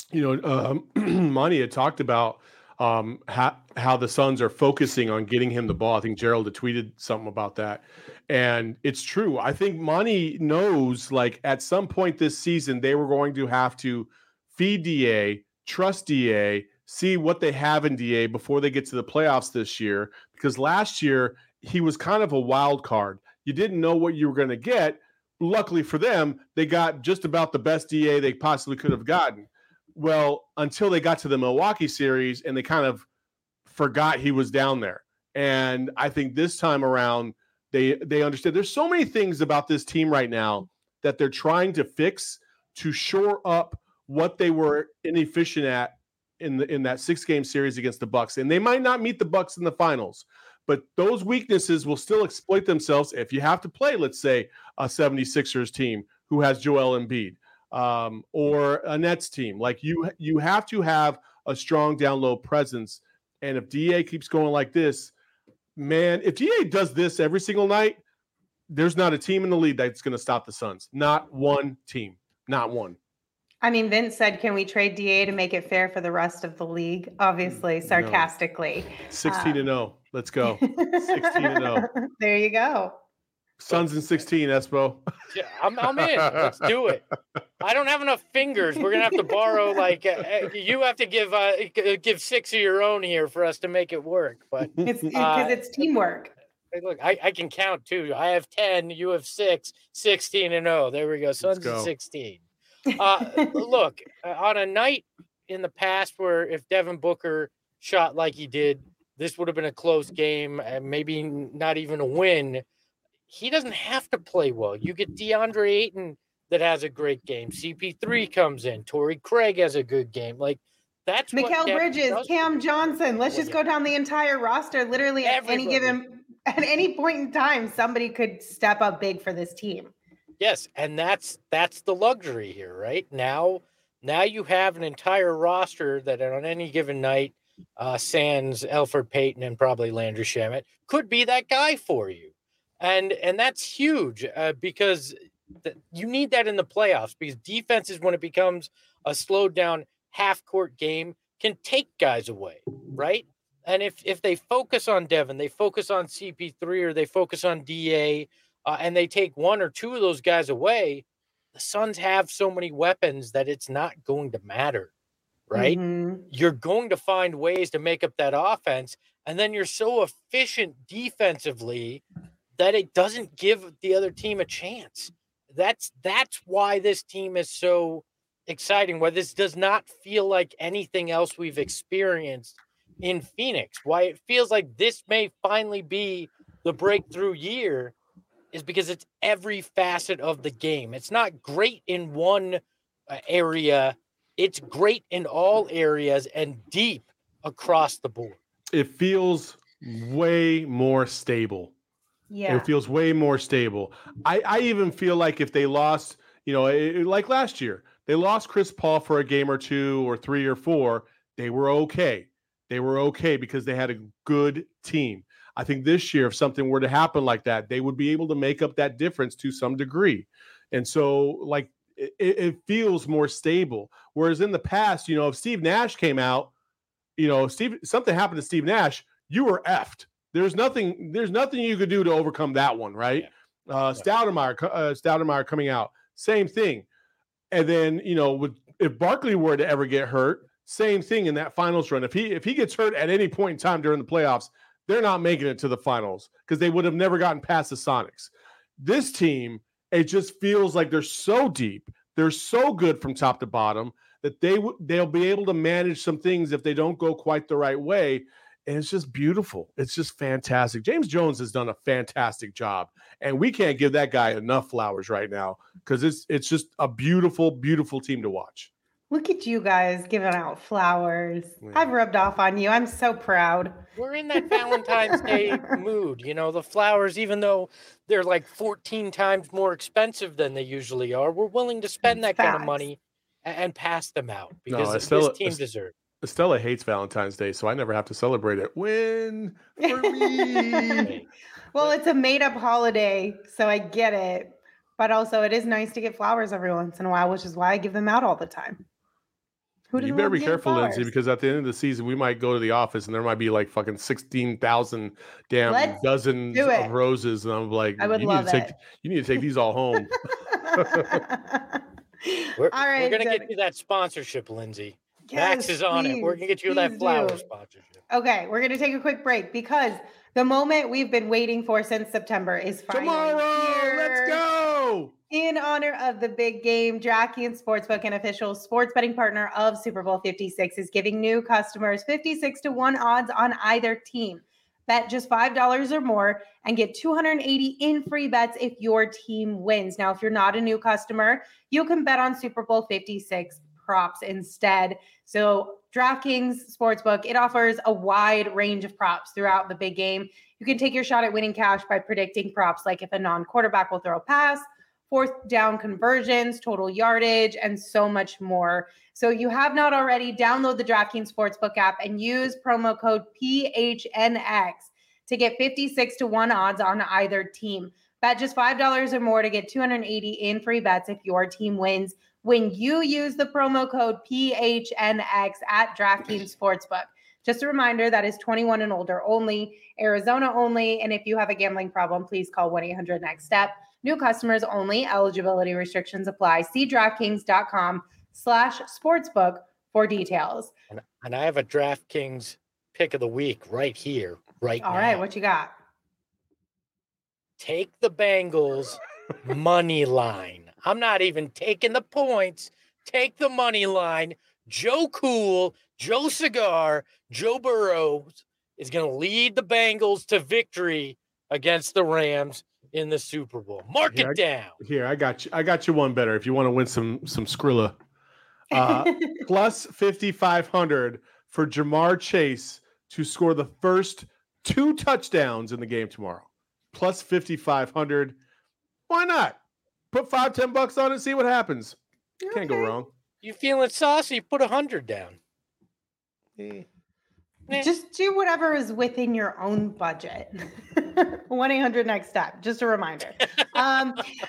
you know, um, Monty had talked about um, how, how the Suns are focusing on getting him the ball. I think Gerald had tweeted something about that. And it's true. I think Monty knows, like, at some point this season, they were going to have to feed D A, trust D A, see what they have in D A before they get to the playoffs this year. Because last year, he was kind of a wild card. You didn't know what you were going to get. Luckily for them, they got just about the best D A they possibly could have gotten. Well, until they got to the Milwaukee series and they kind of forgot he was down there. And I think this time around, they they understood. There's so many things about this team right now that they're trying to fix to shore up what they were inefficient at in the in that six-game series against the Bucks. And they might not meet the Bucks in the finals, but those weaknesses will still exploit themselves if you have to play, let's say, a seventy-sixers team who has Joel Embiid. Um, or a Nets team. Like you, you have to have a strong down low presence. And if D A keeps going like this, man, if D A does this every single night, there's not a team in the league that's going to stop the Suns. Not one team. Not one. I mean, Vince said, can we trade D A to make it fair for the rest of the league? Obviously, sarcastically. No. sixteen and oh. Let's go. sixteen and oh. There you go. Suns in sixteen, Espo. Yeah, I'm, I'm in. Let's do it. I don't have enough fingers. We're gonna have to borrow. Like uh, you have to give uh, give six of your own here for us to make it work. But it's because uh, it's teamwork. Hey, look, I, I can count too. I have ten. You have six. sixteen and oh. There we go. Suns go. in sixteen. Uh, look, on a night in the past where if Devin Booker shot like he did, this would have been a close game and maybe not even a win. He doesn't have to play well. You get DeAndre Ayton that has a great game. C P three comes in. Torrey Craig has a good game. Like that's Mikal Bridges, Cam Johnson. Let's just go down the entire roster. Literally at Everybody. any given at any point in time, somebody could step up big for this team. Yes, and that's that's the luxury here, right? Now, now you have an entire roster that on any given night, uh, sans Elfrid Payton and probably Landry Shamet could be that guy for you. And and that's huge uh, because th- you need that in the playoffs because defenses, when it becomes a slowed down half court game, can take guys away, right? And if if they focus on Devin, they focus on C P three or they focus on D A uh, and they take one or two of those guys away, the Suns have so many weapons that it's not going to matter, right? Mm-hmm. You're going to find ways to make up that offense. And then you're so efficient defensively that it doesn't give the other team a chance. That's that's why this team is so exciting, why this does not feel like anything else we've experienced in Phoenix. Why it feels like this may finally be the breakthrough year is because it's every facet of the game. It's not great in one uh, area. It's great in all areas and deep across the board. It feels way more stable. Yeah. It feels way more stable. I, I even feel like if they lost, you know, it, like last year, they lost Chris Paul for a game or two or three or four. They were okay. They were okay because they had a good team. I think this year, if something were to happen like that, they would be able to make up that difference to some degree. And so, like, it, it feels more stable. Whereas in the past, you know, if Steve Nash came out, you know, Steve, something happened to Steve Nash, you were effed. There's nothing. There's nothing you could do to overcome that one, right? Yeah. Uh, Stoudemire, uh, Stoudemire coming out, same thing. And then you know, with, if Barkley were to ever get hurt, same thing in that finals run. If he if he gets hurt at any point in time during the playoffs, they're not making it to the finals because they would have never gotten past the Sonics. This team, it just feels like they're so deep, they're so good from top to bottom that they w- they'll be able to manage some things if they don't go quite the right way. And it's just beautiful. It's just fantastic. James Jones has done a fantastic job, and we can't give that guy enough flowers right now because it's it's just a beautiful, beautiful team to watch. Look at you guys giving out flowers. Yeah. I've rubbed off on you. I'm so proud. We're in that Valentine's Day mood. You know, the flowers, even though they're like fourteen times more expensive than they usually are, we're willing to spend that Facts. kind of money and, and pass them out because No, this Estella- team Est- deserves. Estella hates Valentine's Day, so I never have to celebrate it. Win for me. Well, it's a made-up holiday, so I get it. But also, it is nice to get flowers every once in a while, which is why I give them out all the time. Who You doesn't better love be James careful, Lindsay, Flowers? because at the end of the season, we might go to the office and there might be like fucking sixteen thousand damn Let's dozens do of it. roses, and I'm like, I would you need love to take it. you need to take these all home. We're, All we're right, gonna Jen- get you that sponsorship, Lindsay. Max Yes, is on it. We're please, gonna get you that please flower do. sponsorship. Okay, we're gonna take a quick break because the moment we've been waiting for since September is finally Tomorrow, here. let's go. In honor of the big game, DraftKings Sportsbook, an official sports betting partner of Super Bowl fifty-six, is giving new customers fifty-six to one odds on either team. Bet just five dollars or more and get two hundred eighty in free bets if your team wins. Now, if you're not a new customer, you can bet on Super Bowl fifty-six props instead. So DraftKings Sportsbook, it offers a wide range of props throughout the big game. You can take your shot at winning cash by predicting props like if a non-quarterback will throw a pass, fourth down conversions, total yardage, and so much more. So if you have not already, download the DraftKings Sportsbook app and use promo code P H N X to get fifty-six to one odds on either team. Bet just five dollars or more to get two hundred eighty in free bets if your team wins when you use the promo code P H N X at DraftKings Sportsbook. Just a reminder, that is twenty-one and older only, Arizona only, and if you have a gambling problem, please call one eight hundred next step. New customers only. Eligibility restrictions apply. See DraftKings.com slash sportsbook for details. And, and I have a DraftKings pick of the week right here, right All now. right, what you got? Take the Bengals money line. I'm not even taking the points. Take the money line. Joe Cool, Joe Cigar, Joe Burrows is going to lead the Bengals to victory against the Rams in the Super Bowl. Mark Here, it down. Here, I got you. I got you one better. If you want to win some some Skrilla, uh, plus fifty-five hundred for Jamar Chase to score the first two touchdowns in the game tomorrow. Plus fifty-five hundred. Why not? Put five, ten bucks on it, see what happens. Can't go Okay. wrong. You feeling saucy? Put a hundred down. Eh. Just do whatever is within your own budget. one eight hundred next step. Just a reminder. Um,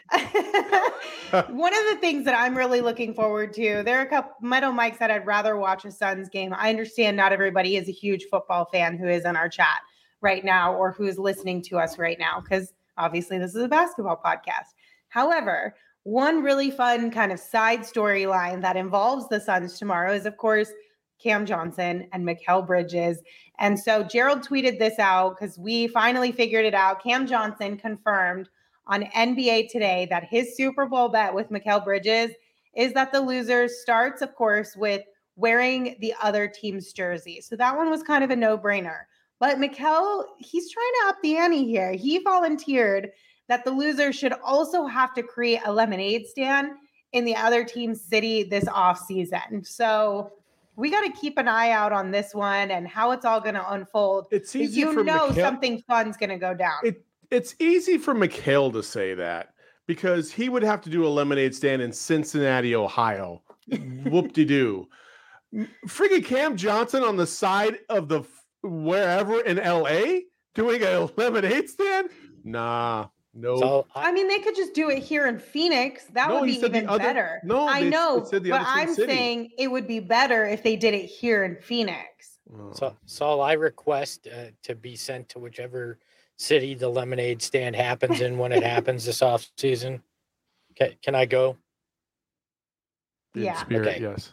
one of the things that I'm really looking forward to, there are a couple, Meadow Mike said I'd rather watch a Suns game. I understand not everybody is a huge football fan who is in our chat right now or who is listening to us right now, because obviously this is a basketball podcast. However, one really fun kind of side storyline that involves the Suns tomorrow is, of course, Cam Johnson and Mikal Bridges. And so Gerald tweeted this out because we finally figured it out. Cam Johnson confirmed on N B A Today that his Super Bowl bet with Mikal Bridges is that the loser starts, of course, with wearing the other team's jersey. So that one was kind of a no-brainer. But Mikal, he's trying to up the ante here. He volunteered that the loser should also have to create a lemonade stand in the other team's city this offseason. So we got to keep an eye out on this one and how it's all going to unfold. It's easy you for know Mikal- something fun's going to go down. It it's easy for Mikal to say that because he would have to do a lemonade stand in Cincinnati, Ohio. Whoop-de-doo. Friggin' Cam Johnson on the side of the wherever in L A doing a lemonade stand? Nah, no. So I mean, they could just do it here in Phoenix. That No, would he be said the even other- better. no, I they- know, they said the but other Twin I'm City. saying it would be better if they did it here in Phoenix. So, Saul, I request uh, to be sent to whichever city the lemonade stand happens in when it happens this off season. Can, can I go? In Yeah. spirit, Okay. yes.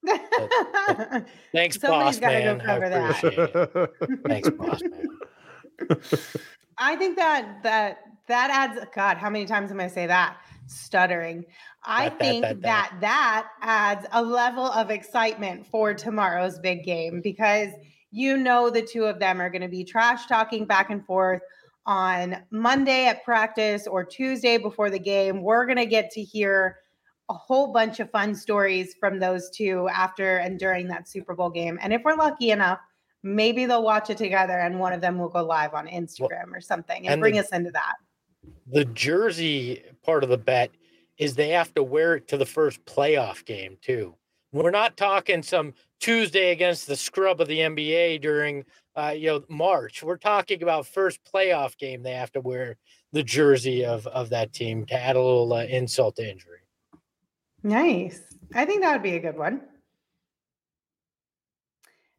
Thanks, Somebody's boss gotta go man. I cover that. appreciate it. Thanks, boss man. I think that that that adds. God, how many times am I say that? Stuttering. I That, that, think that, that, that. that adds a level of excitement for tomorrow's big game because you know the two of them are going to be trash talking back and forth on Monday at practice or Tuesday before the game. We're going to get to hear a whole bunch of fun stories from those two after and during that Super Bowl game. And if we're lucky enough, maybe they'll watch it together and one of them will go live on Instagram or something and, and bring the- us into that. The jersey part of the bet is they have to wear it to the first playoff game too. We're not talking some Tuesday against the scrub of the N B A during uh, you know March. We're talking about first playoff game. They have to wear the jersey of of that team to add a little uh, insult to injury. Nice. I think that would be a good one.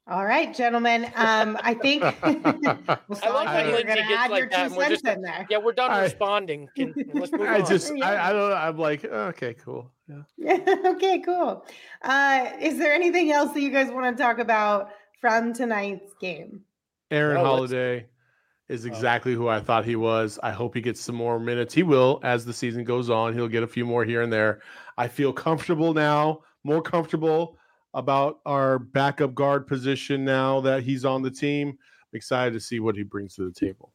All right, gentlemen. Um, I think well, I love how you're Lindsay gonna gets add like your that, two and we're cents just- in there. Yeah, we're done I- responding. Can, let's move I on. just, Yeah. I, I don't know. I'm like, okay, cool. Yeah. Okay, cool. Uh, is there anything else that you guys want to talk about from tonight's game? Aaron No, let's- Holiday is Oh. exactly who I thought he was. I hope he gets some more minutes. He will as the season goes on. He'll get a few more here and there. I feel comfortable now, more comfortable about our backup guard position now that he's on the team. I'm excited to see what he brings to the table.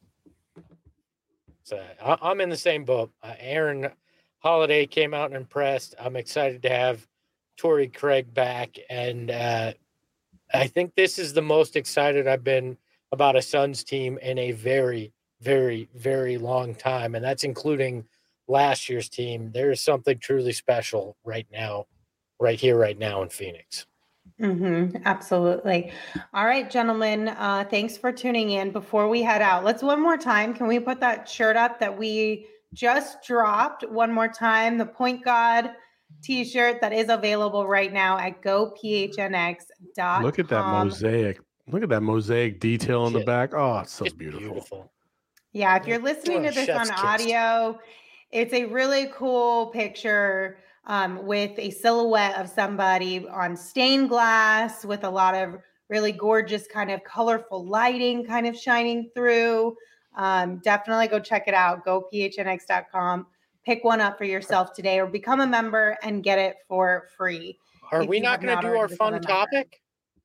So I, I'm in the same boat. Uh, Aaron Holiday came out and impressed. I'm excited to have Torrey Craig back, and uh, I think this is the most excited I've been about a Suns team in a very, very, very long time, and that's including last year's team. There is something truly special right now, right here, right now in Phoenix. Mm-hmm, absolutely. All right, gentlemen. Uh, thanks for tuning in. Before we head out, let's one more time. Can we put that shirt up that we just dropped one more time? The Point God t-shirt that is available right now at go p h n x dot com. Look at that mosaic. Look at that mosaic detail in the Shit. back. Oh, it's so Just beautiful. beautiful. Yeah, if you're listening Oh, to this on chef's kiss. audio, it's a really cool picture um, with a silhouette of somebody on stained glass with a lot of really gorgeous kind of colorful lighting kind of shining through. Um, definitely go check it out. go p h n x dot com. Pick one up for yourself today or become a member and get it for free. Are If we you not have going not to do already our become fun a member. topic?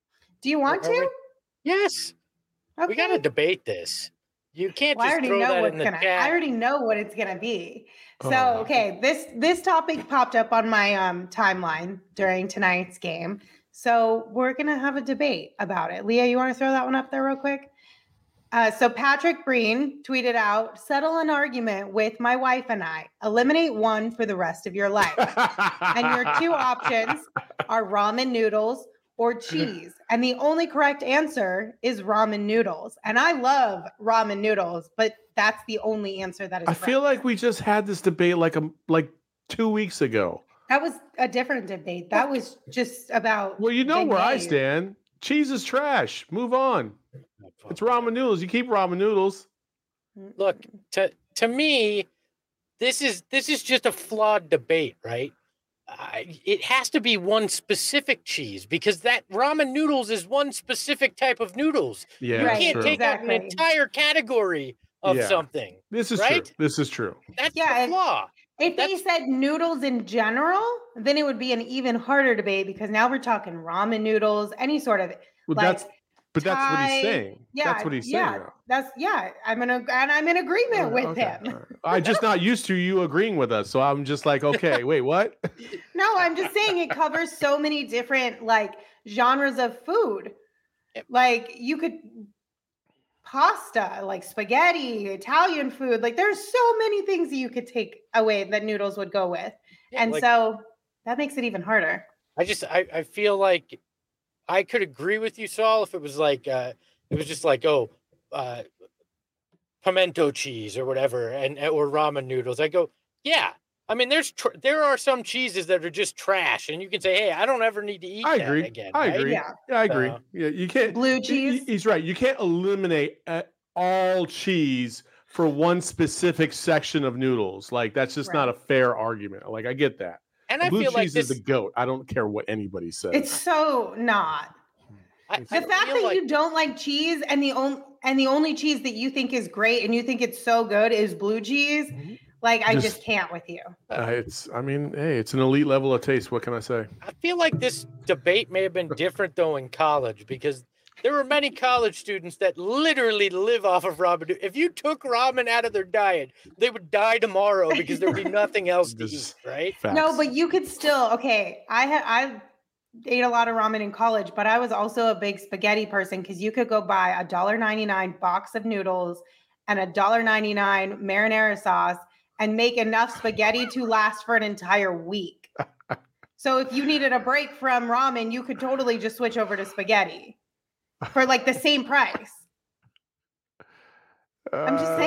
Do you want Are we- to? Yes. We got to Okay. debate this. You can't Well, I just already throw know that what's in the gonna. chat. I already know what it's gonna be. So Oh. okay, this this topic popped up on my um timeline during tonight's game. So we're gonna have a debate about it. Leah, you want to throw that one up there real quick? Uh, so Patrick Breen tweeted out: "Settle an argument with my wife and I. Eliminate one for the rest of your life. And your two options are ramen noodles or cheese. And the only correct answer is ramen noodles. And I love ramen noodles, but that's the only answer that is I feel correct. like we just had this debate like a like two weeks ago. That was a different debate. That was just about Well, you know where I beignets. stand. Cheese is trash. Move on. It's ramen noodles. You keep ramen noodles. Look, to to me, this is this is just a flawed debate, right? I, it has to be one specific cheese because that ramen noodles is one specific type of noodles. Yeah, You Right, can't true. take out exactly. an entire category of Yeah. something. This is right? true. This is true. That's Yeah, the if- flaw. If they That's- said noodles in general, then it would be an even harder debate because now we're talking ramen noodles, any sort of Well, like that's but that's what Thai- he's saying. yeah, that's what he's yeah, saying. though. That's yeah. I'm in a, and I'm in agreement Oh, with okay, him. all right. I'm just not used to you agreeing with us, so I'm just like, okay, wait, what? No, I'm just saying it covers so many different like genres of food. Yep. Like you could pasta, like spaghetti, Italian food. Like there's so many things that you could take away that noodles would go with. Yeah, and like, so that makes it even harder. I just I, I feel like I could agree with you, Saul, if it was like uh it was just like, oh, uh pimento cheese or whatever, and or ramen noodles. I go, yeah. I mean, there's tr- there are some cheeses that are just trash, and you can say, hey, I don't ever need to eat I that agree. again. I right? agree. Yeah. Yeah, I agree. So- yeah, you can't. Blue he- he- cheese. He's right. You can't eliminate uh, all cheese for one specific section of noodles. Like that's just not a Right. fair argument. Like I get that. And I Blue feel cheese like is this. the goat. I don't care what anybody says. It's so not. I, The I fact feel that like, you don't like cheese and the only and the only cheese that you think is great and you think it's so good is blue cheese, like I Just- just can't with you. Uh, it's. I mean, hey, it's an elite level of taste. What can I say? I feel like this debate may have been different though in college because there were many college students that literally live off of ramen. If you took ramen out of their diet, they would die tomorrow because there would be nothing else to eat, Just- right? Facts. No, but you could still okay. I had I ate a lot of ramen in college, but I was also a big spaghetti person because you could go buy a dollar ninety nine box of noodles and a dollar ninety nine marinara sauce and make enough spaghetti to last for an entire week. So if you needed a break from ramen, you could totally just switch over to spaghetti for like the same price. I'm just Uh, saying.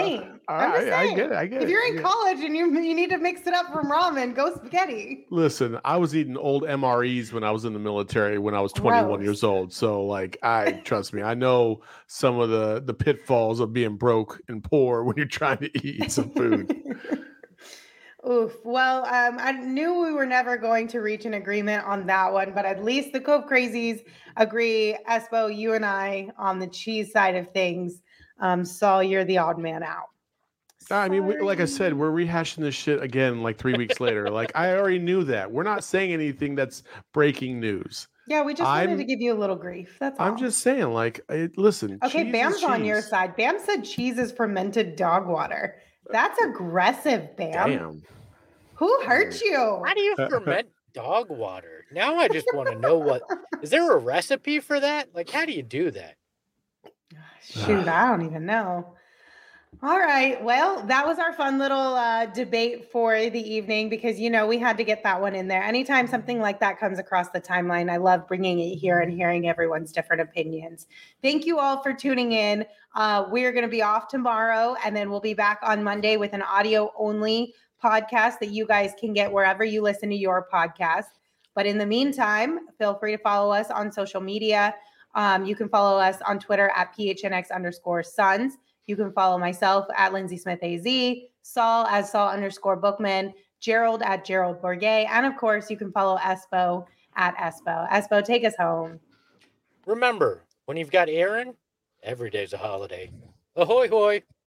I'm just I, I saying, get it. I get if it. you're I in get it. college and you you need to mix it up from ramen, go spaghetti. Listen, I was eating old M R Es when I was in the military when I was twenty-one Gross. years old. So, like, I trust me, I know some of the the pitfalls of being broke and poor when you're trying to eat some food. Oof. Well, um, I knew we were never going to reach an agreement on that one, but at least the Cove Crazies agree. Espo, you and I on the cheese side of things. Um, Saul, you're the odd man out. I mean, we, like I said, Sorry. we're rehashing this shit again like three weeks later. Like, I already knew that. We're not saying anything that's breaking news. Yeah, we just wanted to I'm give you a little grief. That's all. I'm just saying, like, it, listen. Okay, cheese Bam's is on your cheese. side. Bam said cheese is fermented dog water. That's aggressive, Bam. Damn. Who hurt you? How do you ferment dog water? Now I just want to know what is there a recipe for that? Like, how do you do that? Shoot, I don't even know. All right. Well, that was our fun little uh, debate for the evening because, you know, we had to get that one in there. Anytime something like that comes across the timeline, I love bringing it here and hearing everyone's different opinions. Thank you all for tuning in. Uh, we're going to be off tomorrow, and then we'll be back on Monday with an audio only podcast that you guys can get wherever you listen to your podcast. But in the meantime, feel free to follow us on social media. Um, you can follow us on Twitter at P H N X underscore Suns. You can follow myself at Lindsay Smith A Z, Saul as Saul underscore Bookman, Gerald at Gerald Bourget, and of course, you can follow Espo at Espo. Espo, take us home. Remember, when you've got Aaron, every day's a holiday. Ahoy, hoy.